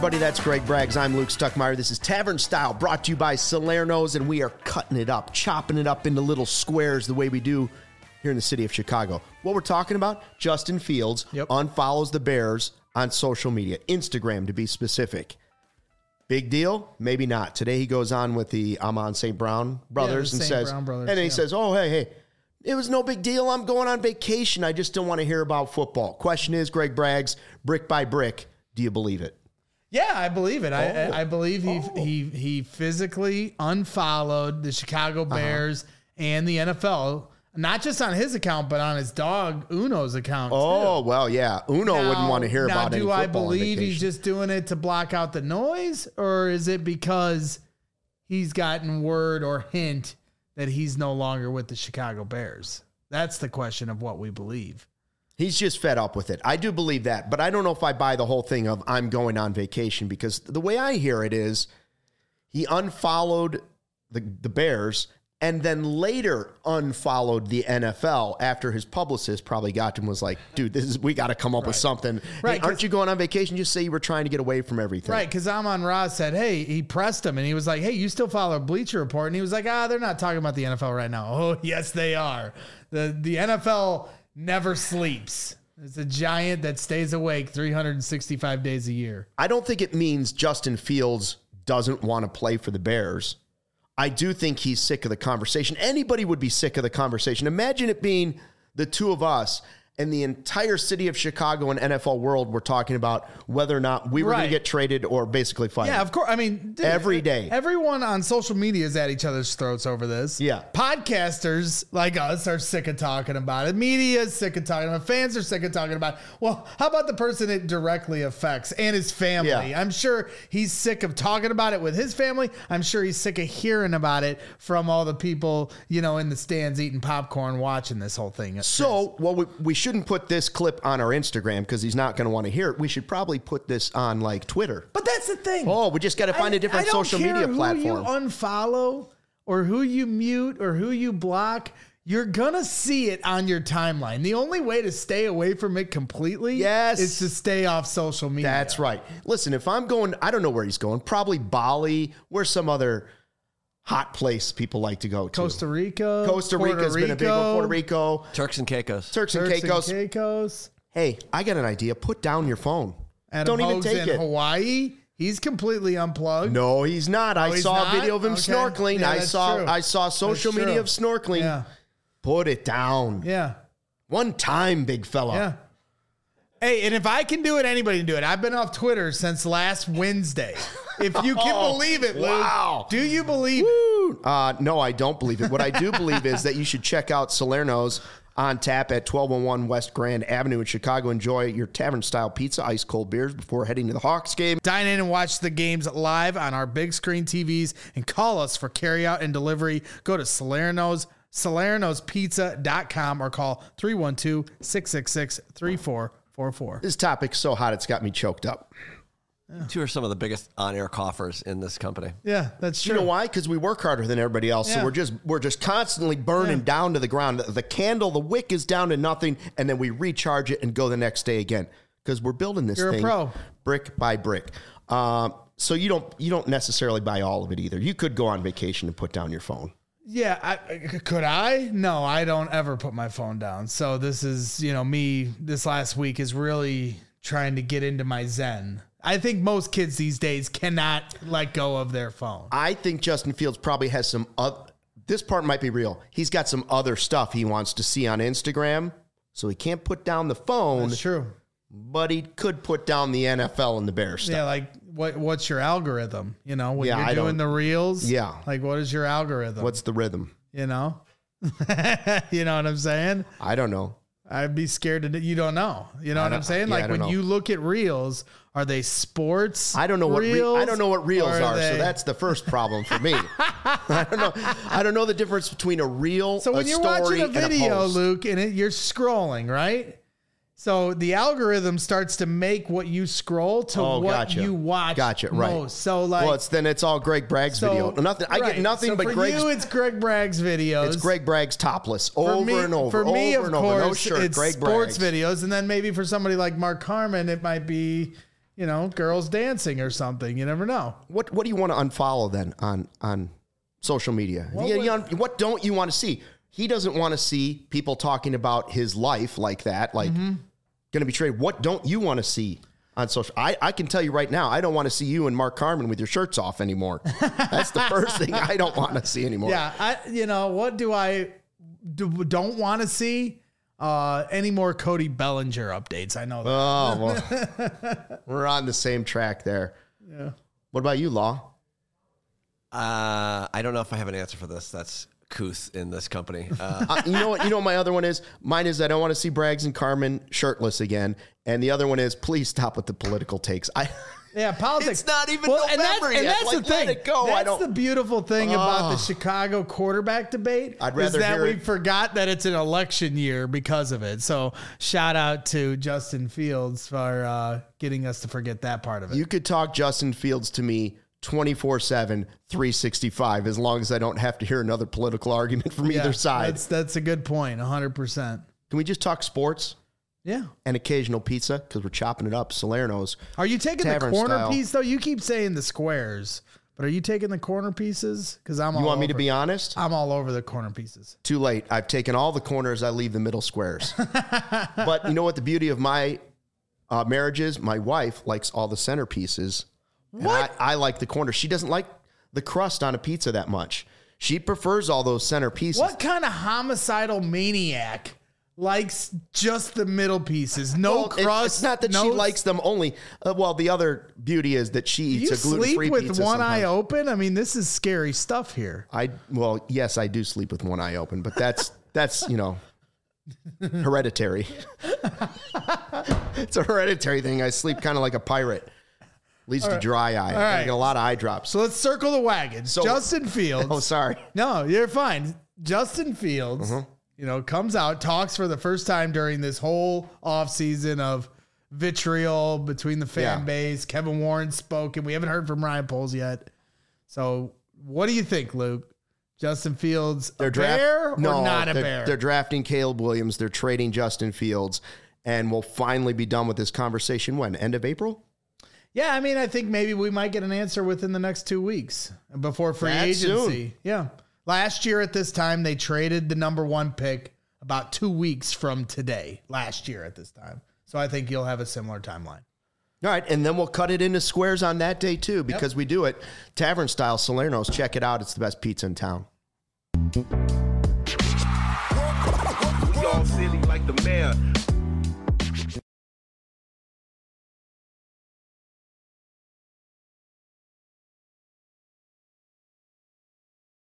everybody. That's Greg Braggs. I'm Luke Stuckmeyer. This is Tavern Style, brought to you by Salerno's, and we are cutting it up, chopping it up into little squares the way we do here in the city of Chicago. What we're talking about, Justin Fields unfollows the Bears on social media, Instagram to be specific. Big deal? Maybe not. Today he goes on with the Amon St. Brown brothers and says, and then he says, oh, hey, it was no big deal. I'm going on vacation. I just don't want to hear about football. Question is, Greg Braggs, brick by brick, do you believe it? Yeah, I believe it. I believe he physically unfollowed the Chicago Bears and the NFL, not just on his account, but on his dog Uno's account. Oh, too. Well, yeah. Uno wouldn't want to hear about any football. Do I believe he's just doing it to block out the noise, or is it because he's gotten word or hint that he's no longer with the Chicago Bears? That's the question of what we believe. He's just fed up with it. I do believe that, but I don't know if I buy the whole thing of I'm going on vacation, because the way I hear it is he unfollowed the Bears and then later unfollowed the NFL after his publicist probably got to him and was like, dude, we got to come up with something. Right, hey, aren't you going on vacation? Just say you were trying to get away from everything. Right, because Amon-Ra said, hey, he pressed him, and he was like, hey, you still follow Bleacher Report? And he was like, they're not talking about the NFL right now. Oh, yes, they are. The NFL never sleeps. It's a giant that stays awake 365 days a year. I don't think it means Justin Fields doesn't want to play for the Bears. I do think he's sick of the conversation. Anybody would be sick of the conversation. Imagine it being the two of us and the entire city of Chicago and NFL world were talking about whether or not we were going to get traded or basically fired. Yeah, of course. I mean, dude, every day. Everyone on social media is at each other's throats over this. Yeah. Podcasters like us are sick of talking about it. Media is sick of talking about it. Fans are sick of talking about it. Well, how about the person it directly affects and his family? Yeah. I'm sure he's sick of talking about it with his family. I'm sure he's sick of hearing about it from all the people, in the stands eating popcorn watching this whole thing. So, we shouldn't put this clip on our Instagram because he's not going to want to hear it. We should probably put this on like Twitter. But that's the thing. Oh, we just got to find a different social media platform. Who you unfollow or who you mute or who you block, you're going to see it on your timeline. The only way to stay away from it completely is to stay off social media. That's right. Listen, if I'm going, I don't know where he's going, probably Bali, where's some other hot place people like to go to. Costa Rica. Costa Rica's been a big one. Puerto Rico. Turks and Caicos. Turks and Caicos. Hey, I got an idea. Put down your phone. Adam Don't even Hogue's take in it. Hawaii. He's completely unplugged. No, he's not. I saw a video of him snorkeling. Yeah, I saw social media of snorkeling. Yeah. Put it down. Yeah. One time, big fella. Yeah. Hey, and if I can do it, anybody can do it. I've been off Twitter since last Wednesday. If you can believe it, Luke. Wow. Do you believe it? No, I don't believe it. What I do believe is that you should check out Salerno's on tap at 1201 West Grand Avenue in Chicago. Enjoy your tavern-style pizza, ice-cold beers before heading to the Hawks game. Dine in and watch the games live on our big screen TVs and call us for carryout and delivery. Go to Salerno'sPizza.com or call 312-666-3444. This topic's so hot it's got me choked up. Yeah. Two are some of the biggest on-air coughers in this company. Yeah, that's true. You know why? Because we work harder than everybody else, so we're just constantly burning down to the ground. The candle, the wick is down to nothing, and then we recharge it and go the next day again. Because we're building this thing brick by brick. So you don't necessarily buy all of it either. You could go on vacation and put down your phone. Yeah, could I? No, I don't ever put my phone down. So this is, me this last week is really trying to get into my zen. I think most kids these days cannot let go of their phone. I think Justin Fields probably has some this part might be real. He's got some other stuff he wants to see on Instagram, so he can't put down the phone. That's true. But he could put down the NFL and the Bears stuff. Yeah, like what's your algorithm? When you're doing the reels? Yeah. Like what is your algorithm? What's the rhythm? You know what I'm saying? I don't know. I'd be scared to. You don't know. You know what I'm saying? Like when you look at reels, are they sports? I don't know reels? I don't know what reels are. So that's the first problem for me. I don't know. I don't know the difference between a reel, so when a you're story, watching a video, and a Luke, and you're scrolling, right? So the algorithm starts to make what you scroll to what you watch most. Right. So like, it's all Greg Bragg's video. Nothing. I get nothing but Greg's. For you, it's Greg Bragg's videos. It's Greg Bragg's topless over and over. For me, over of and over. course, No shirt, it's Greg sports Bragg's videos, and then maybe for somebody like Mark Carman, it might be, girls dancing or something. You never know. What do you want to unfollow then on social media? What don't you want to see? He doesn't want to see people talking about his life like that, going to be traded. What don't you want to see on social? I can tell you right now, I don't want to see you and Mark Carman with your shirts off anymore. That's the first thing I don't want to see anymore. Yeah, what do I don't want to see? Any more Cody Bellinger updates? I know that. Oh, well, we're on the same track there. Yeah. What about you, Law? I don't know if I have an answer for this. That's couth in this company. You know what my other one is? Mine is I don't want to see Braggs and Carman shirtless again. And the other one is please stop with the political takes. Politics. It's not even November yet. And that's the thing. Let it go. That's the beautiful thing about the Chicago quarterback debate. I'd rather is that hear we it. forgot that it's an election year because of it. So shout out to Justin Fields for getting us to forget that part of it. You could talk Justin Fields to me 24/7, 365, as long as I don't have to hear another political argument from either side. That's a good point, 100%. Can we just talk sports? Yeah. And occasional pizza, because we're chopping it up. Salerno's. Are you taking Tavern the corner style. piece, though? You keep saying the squares, but are you taking the corner pieces? Because You want me to be honest? I'm all over the corner pieces. Too late. I've taken all the corners. I leave the middle squares. But you know what the beauty of my marriage is? My wife likes all the center pieces. What? And I like the corners. She doesn't like the crust on a pizza that much. She prefers all those center pieces. What kind of homicidal maniac likes just the middle pieces? No crust. It's not that she likes them only. The other beauty is that she eats a gluten-free sleep pizza with one eye sometimes. open? I mean, this is scary stuff here. Yes, I do sleep with one eye open, but that's hereditary. It's a hereditary thing. I sleep kind of like a pirate. Leads to dry eye. I get a lot of eye drops. So let's circle the wagons. Justin Fields. Oh, sorry. No, you're fine. Justin Fields, comes out, talks for the first time during this whole offseason of vitriol between the fan base. Kevin Warren spoke, and we haven't heard from Ryan Poles yet. So what do you think, Luke? Justin Fields a bear or not a bear? They're drafting Caleb Williams. They're trading Justin Fields, and we'll finally be done with this conversation when? End of April? Yeah, I mean, I think maybe we might get an answer within the next 2 weeks before free agency. Soon. Yeah. Last year at this time, they traded the number 1 pick about 2 weeks from today, last year at this time. So I think you'll have a similar timeline. All right, and then we'll cut it into squares on that day, too, because we do it tavern style. Salerno's. Check it out. It's the best pizza in town. We all silly like the mayor.